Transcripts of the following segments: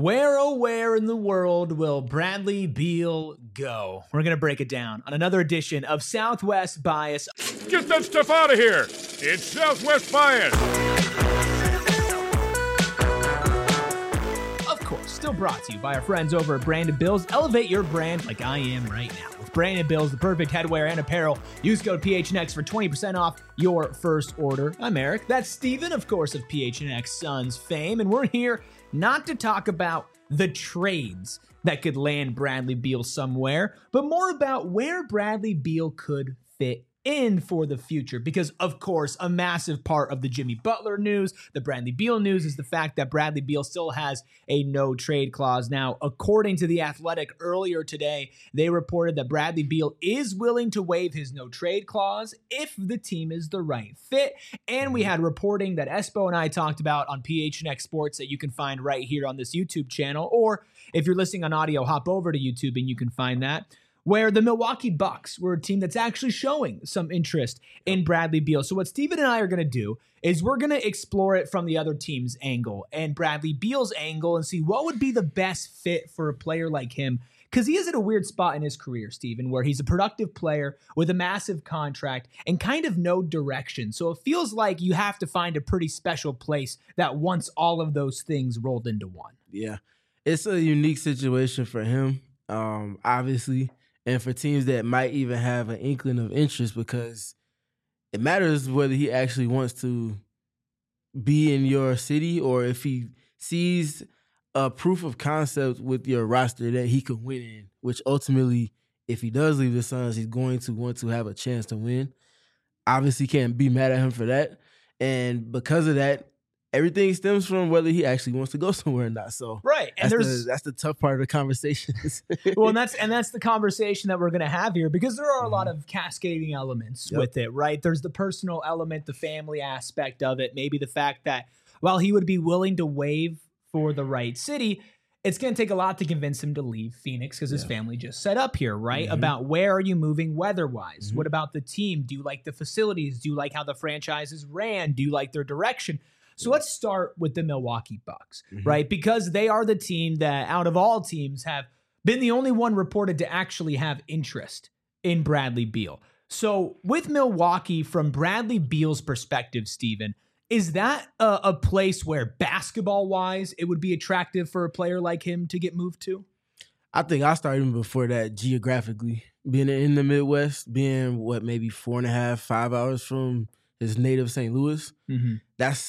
Where, oh, where in the world will Bradley Beal go? We're going to break it down on another edition of Southwest Bias. Get that stuff out of here. It's Southwest Bias. Of course, still brought to you by our friends over at Brandon Bills. Elevate your brand like I am right now. With Brandon Bills, the perfect headwear and apparel. Use code PHNX for 20% off your first order. I'm Eric. That's Steven, of course, of PHNX Suns fame. And we're here not to talk about the trades that could land Bradley Beal somewhere, but more about where Bradley Beal could fit in for the future. Because, of course, a massive part of the Jimmy Butler news, the Bradley Beal news, is the fact that Bradley Beal still has a no-trade clause. Now, according to The Athletic earlier today, they reported that Bradley Beal is willing to waive his no-trade clause if the team is the right fit. And we had reporting that Espo and I talked about on PHNX Sports that you can find right here on this YouTube channel. Or if you're listening on audio, hop over to YouTube and you can find that, where the Milwaukee Bucks were a team that's actually showing some interest in Bradley Beal. So what Steven and I are going to do is we're going to explore it from the other team's angle and Bradley Beal's angle and see what would be the best fit for a player like him. Because he is at a weird spot in his career, Steven, where he's a productive player with a massive contract and kind of no direction. So it feels like you have to find a pretty special place that wants all of those things rolled into one. Yeah, it's a unique situation for him, obviously. And for teams that might even have an inkling of interest, because it matters whether he actually wants to be in your city or if he sees a proof of concept with your roster that he could win in, which ultimately, if he does leave the Suns, he's going to want to have a chance to win. Obviously, can't be mad at him for that. And because of that, everything stems from whether he actually wants to go somewhere or not. So right, and that's the tough part of the conversation. Well, and that's the conversation that we're going to have here, because there are a lot of cascading elements with it, right? There's the personal element, the family aspect of it, maybe the fact that while he would be willing to waive for the right city, it's going to take a lot to convince him to leave Phoenix because his family just set up here, right? About where are you moving weather-wise? What about the team? Do you like the facilities? Do you like how the franchise is ran? Do you like their direction? So let's start with the Milwaukee Bucks, right? Because they are the team that, out of all teams, have been the only one reported to actually have interest in Bradley Beal. So with Milwaukee, from Bradley Beal's perspective, Steven, is that a place where basketball-wise it would be attractive for a player like him to get moved to? I think I started even before that geographically. Being in the Midwest, being, maybe 4.5, 5 hours from his native St. Louis, that's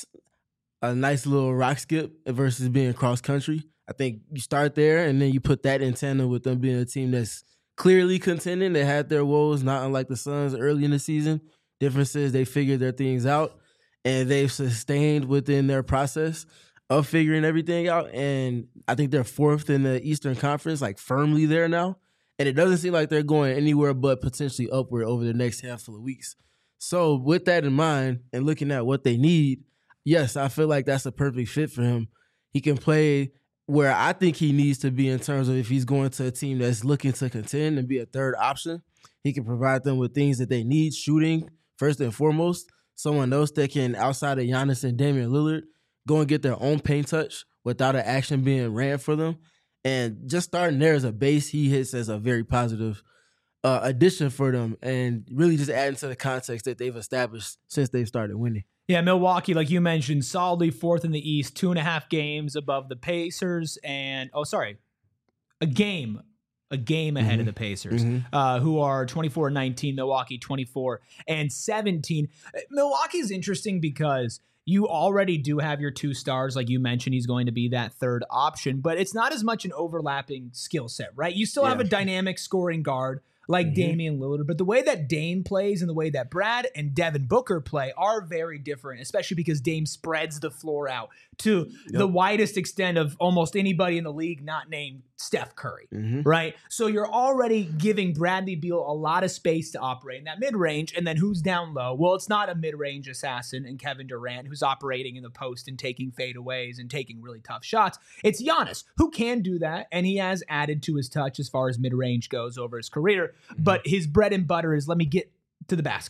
a nice little rock skip versus being cross country. I think you start there and then you put that in tandem with them being a team that's clearly contending. They had their woes, not unlike the Suns early in the season. Difference is they figured their things out and they've sustained within their process of figuring everything out. And I think they're fourth in the Eastern Conference, like firmly there now. And it doesn't seem like they're going anywhere but potentially upward over the next handful of weeks. So with that in mind and looking at what they need, yes, I feel like that's a perfect fit for him. He can play where I think he needs to be in terms of if he's going to a team that's looking to contend and be a third option. He can provide them with things that they need, shooting first and foremost. Someone else that can, outside of Giannis and Damian Lillard, go and get their own paint touch without an action being ran for them. And just starting there as a base, he hits as a very positive addition for them, and really just adding to the context that they've established since they've started winning. Yeah, Milwaukee, like you mentioned, solidly fourth in the East, 2.5 games above the Pacers, and a game ahead of the Pacers, who are 24-19, Milwaukee 24-17. Milwaukee's interesting because you already do have your two stars. Like you mentioned, he's going to be that third option, but it's not as much an overlapping skill set, right? You still have a dynamic scoring guard like Damian Lillard, but the way that Dame plays and the way that Brad and Devin Booker play are very different, especially because Dame spreads the floor out to the widest extent of almost anybody in the league not named Steph Curry, right? So you're already giving Bradley Beal a lot of space to operate in that mid-range, and then who's down low? Well, it's not a mid-range assassin and Kevin Durant who's operating in the post and taking fadeaways and taking really tough shots. It's Giannis, who can do that, and he has added to his touch as far as mid-range goes over his career, but his bread and butter is let me get to the basket.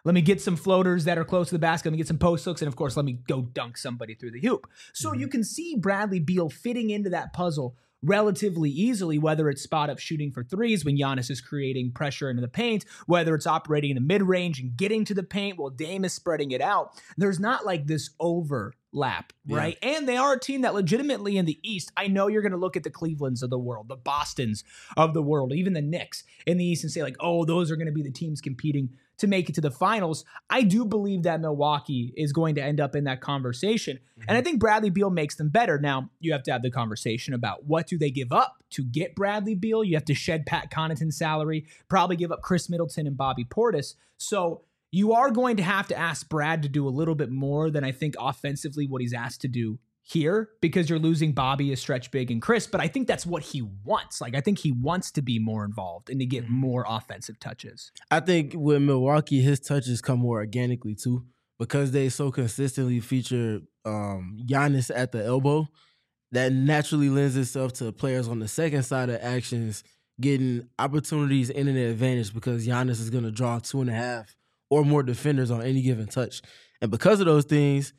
Let me get some floaters that are close to the basket. Let me get some post hooks. And of course, let me go dunk somebody through the hoop. So you can see Bradley Beal fitting into that puzzle relatively easily, whether it's spot up shooting for threes when Giannis is creating pressure into the paint, whether it's operating in the mid-range and getting to the paint while Dame is spreading it out. There's not like this overlap, right? And they are a team that legitimately in the East, I know you're going to look at the Clevelands of the world, the Bostons of the world, even the Knicks in the East and say like, oh, those are going to be the teams competing to make it to the finals. I do believe that Milwaukee is going to end up in that conversation. And I think Bradley Beal makes them better. Now, you have to have the conversation about what do they give up to get Bradley Beal. You have to shed Pat Connaughton's salary, probably give up Chris Middleton and Bobby Portis. So you are going to have to ask Brad to do a little bit more than I think offensively what he's asked to do here, because you're losing Bobby, a stretch big, and Chris. But I think that's what he wants. Like, I think he wants to be more involved and to get more offensive touches. I think with Milwaukee, his touches come more organically too, because they so consistently feature Giannis at the elbow. That naturally lends itself to players on the second side of actions getting opportunities and an advantage, because Giannis is going to draw 2.5 or more defenders on any given touch. And because of those things,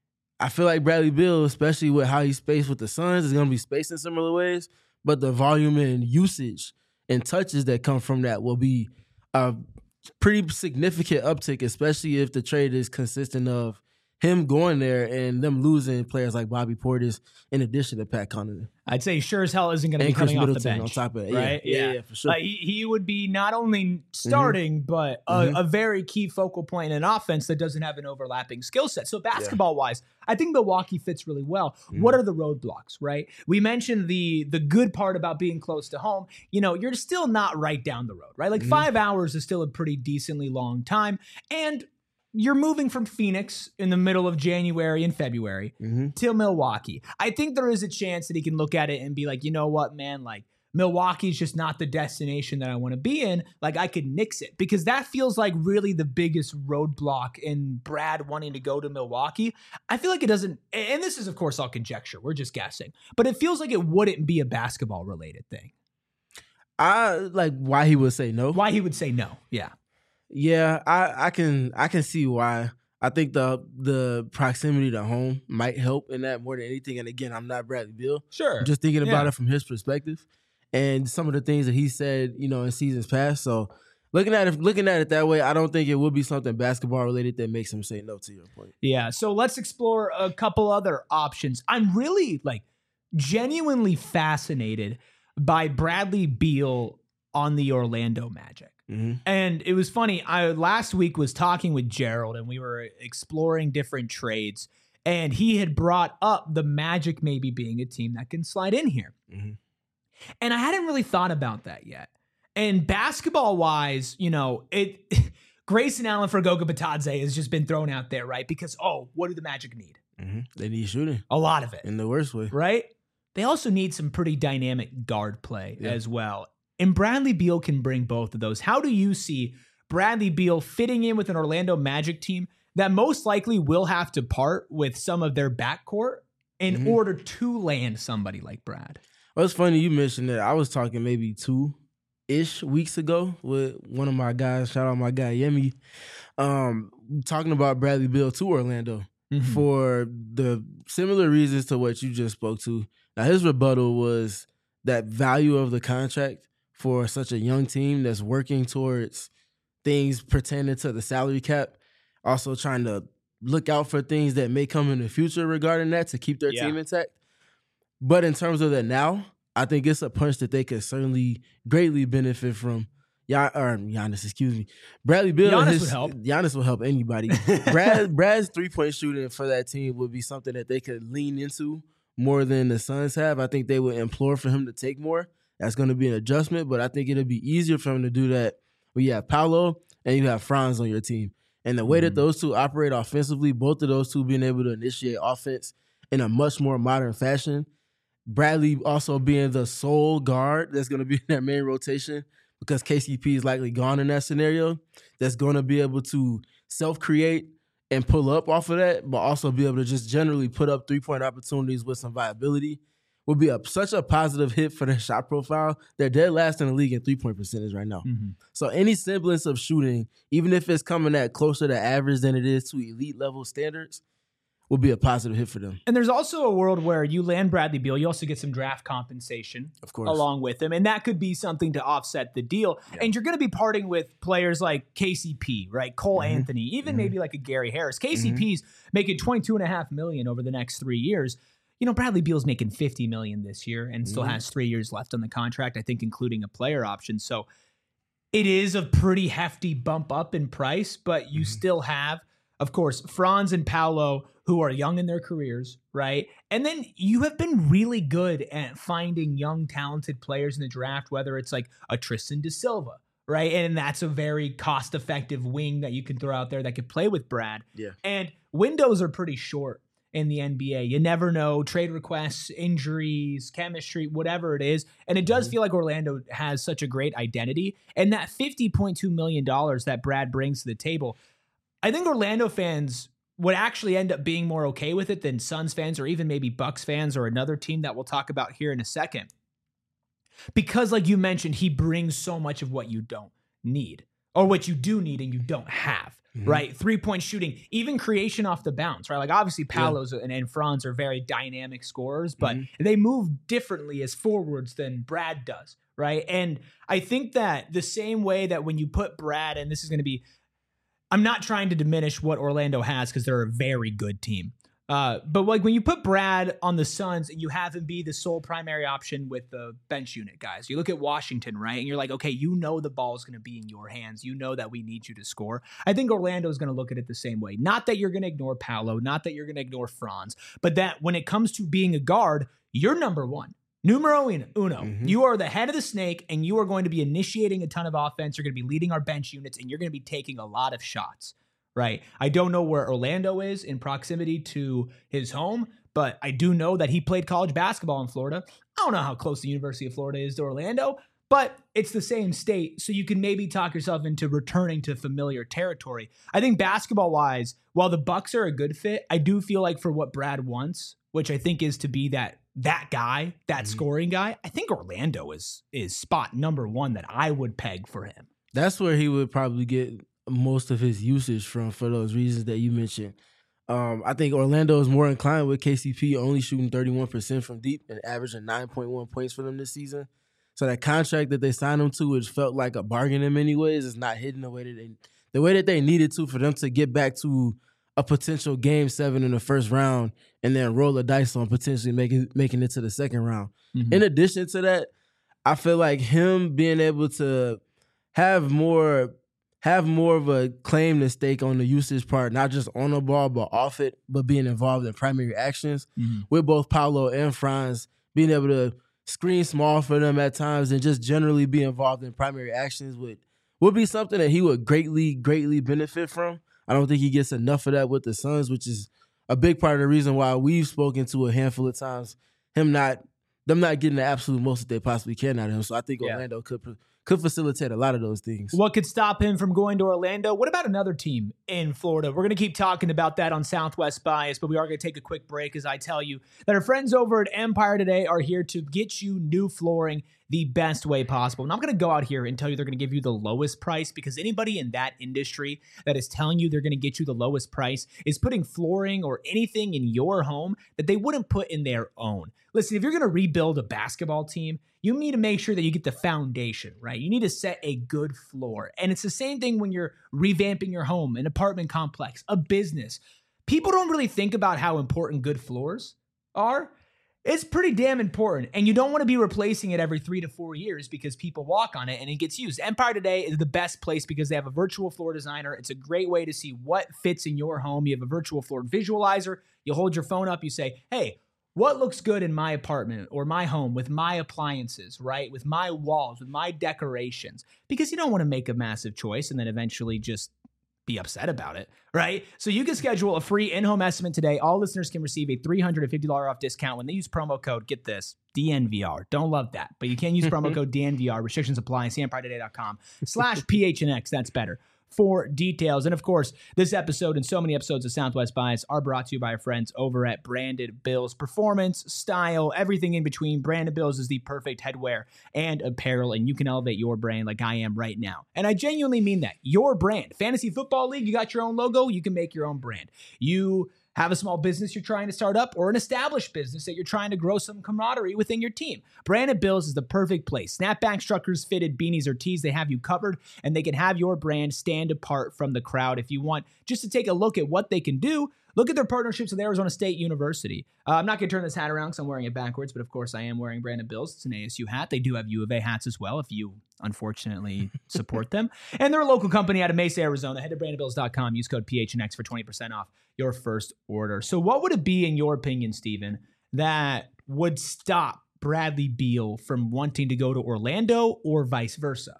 I feel like Bradley Beal, especially with how he's spaced with the Suns, is going to be spaced in similar ways, but the volume and usage and touches that come from that will be a pretty significant uptick, especially if the trade is consistent of him going there and them losing players like Bobby Portis in addition to Pat Connaughton. I'd say sure as hell isn't going to be coming off the bench. On top of it. Right? Yeah, for sure. Like he would be not only starting, but a very key focal point in an offense that doesn't have an overlapping skill set. So basketball-wise, I think Milwaukee fits really well. What are the roadblocks, right? We mentioned the good part about being close to home. You know, you're still not right down the road, right? Like 5 hours is still a pretty decently long time. And you're moving from Phoenix in the middle of January and February to Milwaukee. I think there is a chance that he can look at it and be like, you know what, man, like Milwaukee's just not the destination that I want to be in. Like I could nix it, because that feels like really the biggest roadblock in Brad wanting to go to Milwaukee. I feel like it doesn't, and this is of course all conjecture, we're just guessing, but it feels like it wouldn't be a basketball related thing. I like why he would say no. Why he would say no. Yeah. Yeah, I can see why. I think the proximity to home might help in that more than anything. And again, I'm not Bradley Beal. Sure. I'm just thinking about it from his perspective and some of the things that he said, you know, in seasons past. So looking at it that way, I don't think it would be something basketball related that makes him say no, to your point. Yeah. So let's explore a couple other options. I'm really like genuinely fascinated by Bradley Beal on the Orlando Magic. And it was funny. I last week was talking with Gerald and we were exploring different trades, and he had brought up the Magic maybe being a team that can slide in here. And I hadn't really thought about that yet. And basketball wise, you know, Grayson Allen for Goga Bitadze has just been thrown out there, right? Because, what do the Magic need? They need shooting. A lot of it. In the worst way. Right? They also need some pretty dynamic guard play as well. And Bradley Beal can bring both of those. How do you see Bradley Beal fitting in with an Orlando Magic team that most likely will have to part with some of their backcourt in order to land somebody like Brad? Well, it's funny you mentioned that. I was talking maybe 2-ish weeks ago with one of my guys, shout out my guy Yemi, talking about Bradley Beal to Orlando for the similar reasons to what you just spoke to. Now, his rebuttal was that value of the contract for such a young team that's working towards things pertaining to the salary cap, also trying to look out for things that may come in the future regarding that to keep their team intact. But in terms of that now, I think it's a punch that they could certainly greatly benefit from. Giannis, excuse me. Bradley Beal. Giannis would help. Giannis will help anybody. Brad's 3-point shooting for that team would be something that they could lean into more than the Suns have. I think they would implore for him to take more. That's going to be an adjustment, but I think it'll be easier for him to do that when you have Paolo and you have Franz on your team. And the way that those two operate offensively, both of those two being able to initiate offense in a much more modern fashion. Bradley also being the sole guard that's going to be in their main rotation because KCP is likely gone in that scenario, that's going to be able to self-create and pull up off of that, but also be able to just generally put up 3-point opportunities with some viability. will be such a positive hit for their shot profile. They're dead last in the league in 3-point percentage right now. Mm-hmm. So any semblance of shooting, even if it's coming at closer to average than it is to elite level standards, will be a positive hit for them. And there's also a world where you land Bradley Beal, you also get some draft compensation, of course, along with him, and that could be something to offset the deal. Yeah. And you're going to be parting with players like KCP, right? Cole Anthony, even maybe like a Gary Harris. KCP's making $22.5 million over the next 3 years. You know, Bradley Beal's making $50 million this year and still has 3 years left on the contract, I think, including a player option. So it is a pretty hefty bump up in price, but you still have, of course, Franz and Paolo, who are young in their careers, right? And then you have been really good at finding young, talented players in the draft, whether it's like a Tristan da Silva, right? And that's a very cost-effective wing that you can throw out there that could play with Brad. Yeah. And windows are pretty short in the NBA. You never know, trade requests, injuries, chemistry, whatever it is. And it does feel like Orlando has such a great identity. And that $50.2 million that Brad brings to the table, I think Orlando fans would actually end up being more okay with it than Suns fans or even maybe Bucks fans or another team that we'll talk about here in a second. Because like you mentioned, he brings so much of what you don't need or what you do need and you don't have, right? 3-point shooting, even creation off the bounce, right? Like obviously Paolo's and Franz are very dynamic scorers, but they move differently as forwards than Brad does, right? And I think that the same way that when you put Brad, and this is going to be, I'm not trying to diminish what Orlando has because they're a very good team. But like when you put Brad on the Suns and you have him be the sole primary option with the bench unit guys, you look at Washington, right? And you're like, okay, you know the ball is going to be in your hands. You know that we need you to score. I think Orlando is going to look at it the same way. Not that you're going to ignore Paolo, not that you're going to ignore Franz, but that when it comes to being a guard, you're number one. Numero uno. You are the head of the snake, and you are going to be initiating a ton of offense. You're going to be leading our bench units, and you're going to be taking a lot of shots, right? I don't know where Orlando is in proximity to his home, but I do know that he played college basketball in Florida. I don't know how close the University of Florida is to Orlando, but it's the same state, so you can maybe talk yourself into returning to familiar territory. I think basketball-wise, while the Bucks are a good fit, I do feel like for what Brad wants, which I think is to be that guy, that scoring guy, I think Orlando is spot number one that I would peg for him. That's where he would probably get most of his usage from for those reasons that you mentioned. I think Orlando is more inclined with KCP only shooting 31% from deep and averaging 9.1 points for them this season. So that contract that they signed him to, which felt like a bargain in many ways, is not hitting the way that they needed to for them to get back to a potential Game 7 in the first round and then roll the dice on potentially making it to the second round. In addition to that, I feel like him being able to have more of a claim to stake on the usage part, not just on the ball, but off it, but being involved in primary actions with both Paolo and Franz, being able to screen small for them at times and just generally be involved in primary actions would be something that he would greatly, greatly benefit from. I don't think he gets enough of that with the Suns, which is a big part of the reason why we've spoken to a handful of times them not getting the absolute most that they possibly can out of him. So I think Orlando could facilitate a lot of those things. What could stop him from going to Orlando? What about another team in Florida? We're going to keep talking about that on Southwest Bias, but we are going to take a quick break as I tell you that our friends over at Empire Today are here to get you new flooring the best way possible. And I'm going to go out here and tell you they're going to give you the lowest price, because anybody in that industry that is telling you they're going to get you the lowest price is putting flooring or anything in your home that they wouldn't put in their own. Listen, if you're going to rebuild a basketball team, you need to make sure that you get the foundation, right? You need to set a good floor. And it's the same thing when you're revamping your home, an apartment complex, a business. People don't really think about how important good floors are. It's pretty damn important. And you don't want to be replacing it every 3 to 4 years because people walk on it and it gets used. Empire Today is the best place because they have a virtual floor designer. It's a great way to see what fits in your home. You have a virtual floor visualizer. You hold your phone up. You say, hey, what looks good in my apartment or my home with my appliances, right? With my walls, with my decorations, because you don't want to make a massive choice and then eventually just be upset about it, right? So you can schedule a free in-home estimate today. All listeners can receive a $350 off discount when they use promo code, get this, DNVR. Don't love that, but you can use promo code DNVR. Restrictions apply. See EmpireToday.com/PHNX. That's better. for details. And of course, this episode and so many episodes of Southwest Bias are brought to you by our friends over at Branded Bills. Performance, style, everything in between. Branded Bills is the perfect headwear and apparel, and you can elevate your brand like I am right now. And I genuinely mean that. Your brand. Fantasy Football League, you got your own logo, you can make your own brand. You have a small business you're trying to start up or an established business that you're trying to grow some camaraderie within your team. Branded Bills is the perfect place. Snapback, truckers, fitted, beanies, or tees, they have you covered, and they can have your brand stand apart from the crowd. If you want just to take a look at what they can do, look at their partnerships with Arizona State University. I'm not going to turn this hat around because I'm wearing it backwards, but of course I am wearing Branded Bills. It's an ASU hat. They do have U of A hats as well if you unfortunately support them. And they're a local company out of Mesa, Arizona. Head to brandedbills.com. Use code PHNX for 20% off your first order. So what would it be, in your opinion, Steven, that would stop Bradley Beal from wanting to go to Orlando or vice versa?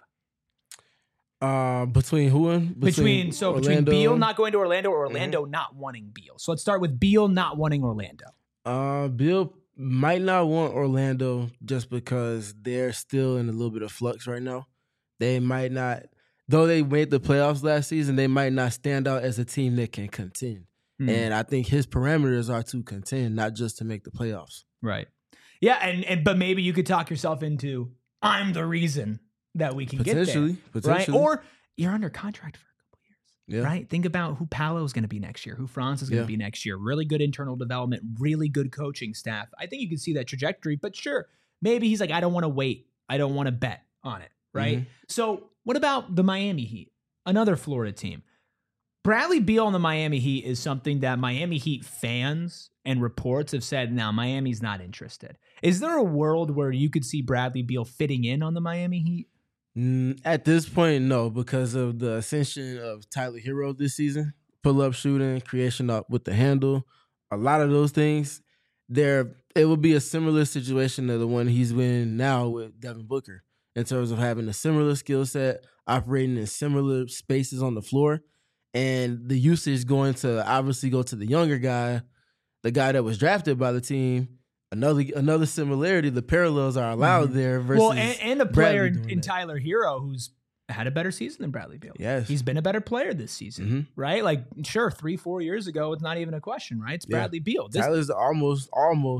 Between who and? Between Beal not going to Orlando or Orlando not wanting Beal. So let's start with Beal not wanting Orlando. Beal might not want Orlando just because they're still in a little bit of flux right now. They might not, though they made the playoffs last season, they might not stand out as a team that can contend. And I think his parameters are to contend, not just to make the playoffs. Right. Yeah, but maybe you could talk yourself into, I'm the reason that we can get there. Potentially. Right? Or you're under contract for a couple years. Yeah. Right? Think about who Paolo is going to be next year, who Franz is going to be next year. Really good internal development, really good coaching staff. I think you can see that trajectory, but sure, maybe he's like, I don't want to wait. I don't want to bet on it. Right? So what about the Miami Heat? Another Florida team. Bradley Beal on the Miami Heat is something that Miami Heat fans and reports have said, now Miami's not interested. Is there a world where you could see Bradley Beal fitting in on the Miami Heat? At this point, no, because of the ascension of Tyler Hero this season. Pull-up shooting, creation up with the handle, a lot of those things. It will be a similar situation to the one he's in now with Devin Booker in terms of having a similar skill set, operating in similar spaces on the floor. And the usage going to obviously go to the younger guy, the guy that was drafted by the team. Another similarity, the parallels are allowed there versus and a player in Tyler Hero who's had a better season than Bradley Beal. Yes. He's been a better player this season, right? Like, sure, 3-4 years ago, it's not even a question, right? It's Bradley Beal. Tyler's almost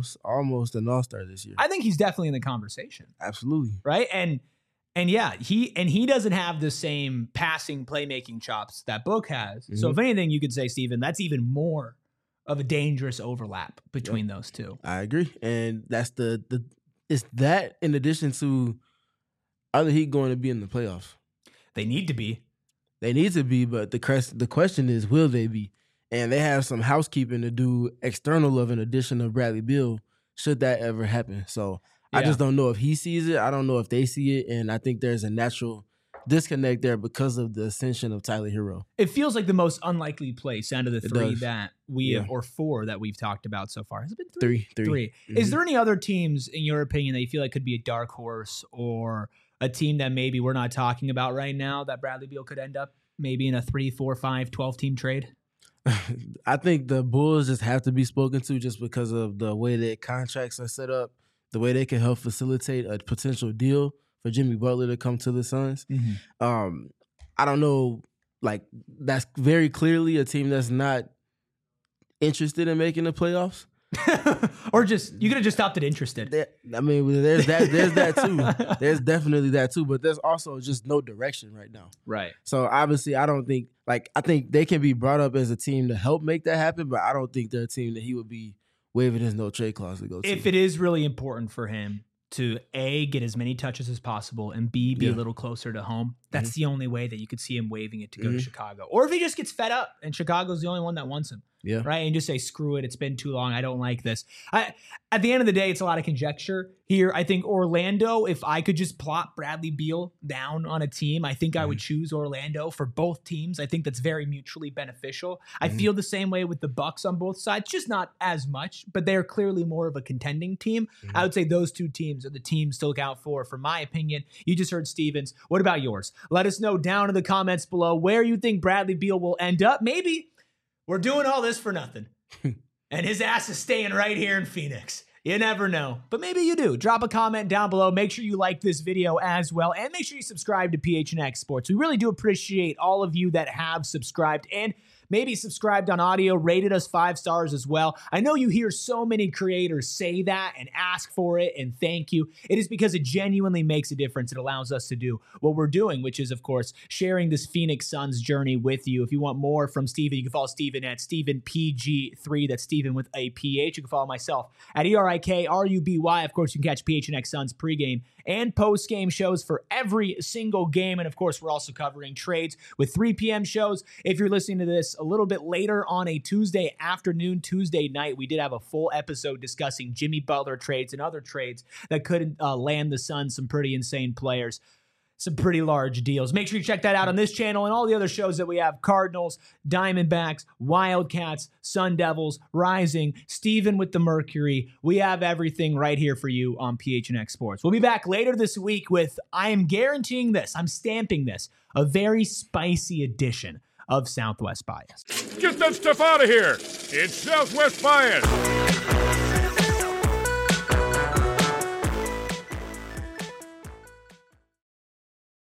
an all-star this year. I think he's definitely in the conversation. Absolutely. Right? And yeah, he doesn't have the same passing playmaking chops that Book has. So if anything, you could say, Steven, that's even more of a dangerous overlap between those two. I agree. And that's it's that in addition to, are the Heat going to be in the playoffs? They need to be. They need to be, but the question is, will they be? And they have some housekeeping to do external of an addition of Bradley Beal, should that ever happen. So I just don't know if he sees it. I don't know if they see it. And I think there's a natural disconnect there because of the ascension of Tyler Hero. It feels like the most unlikely place out of the three that we have, or four that we've talked about so far. Has it been three? Three. Is there any other teams, in your opinion, that you feel like could be a dark horse or a team that maybe we're not talking about right now that Bradley Beal could end up maybe in a 3, 4, 5, 12 team trade? I think the Bulls just have to be spoken to just because of the way their contracts are set up, the way they can help facilitate a potential deal for Jimmy Butler to come to the Suns. I don't know, like, that's very clearly a team that's not interested in making the playoffs. Or just, you could have just stopped at interested. There's that too. There's definitely that too, but there's also just no direction right now. Right. So obviously I think they can be brought up as a team to help make that happen, but I don't think they're a team that he would be waiving his no trade clause to go to. If it is really important for him to A, get as many touches as possible, and B, be a little closer to home, that's the only way that you could see him waiving it to go to Chicago. Or if he just gets fed up and Chicago's the only one that wants him. Yeah. Right. And just say, screw it. It's been too long. I don't like this. At the end of the day, it's a lot of conjecture here. I think Orlando, if I could just plot Bradley Beal down on a team, I think I would choose Orlando for both teams. I think that's very mutually beneficial. I feel the same way with the Bucks on both sides, just not as much, but they're clearly more of a contending team. I would say those two teams are the teams to look out for my opinion. You just heard Stevens. What about yours? Let us know down in the comments below where you think Bradley Beal will end up. Maybe we're doing all this for nothing. And his ass is staying right here in Phoenix. You never know, but maybe you do. Drop a comment down below. Make sure you like this video as well, and make sure you subscribe to PHNX Sports. We really do appreciate all of you that have subscribed and maybe subscribed on audio, rated us 5 stars as well. I know you hear so many creators say that and ask for it and thank you. It is because it genuinely makes a difference. It allows us to do what we're doing, which is, of course, sharing this Phoenix Suns journey with you. If you want more from Steven, you can follow Steven at StevenPG3. That's Steven with a PH. You can follow myself at ERIKRUBY. Of course, you can catch PHNX Suns pregame and postgame shows for every single game. And of course, we're also covering trades with 3 p.m. shows. If you're listening to this a little bit later on a Tuesday afternoon, Tuesday night, we did have a full episode discussing Jimmy Butler trades and other trades that could land the Suns some pretty insane players. Some pretty large deals. Make sure you check that out on this channel and all the other shows that we have. Cardinals, Diamondbacks, Wildcats, Sun Devils, Rising, Steven with the Mercury. We have everything right here for you on PHNX Sports. We'll be back later this week with, I am guaranteeing this, I'm stamping this, a very spicy edition of Southwest Bias. Get that stuff out of here. It's Southwest Bias.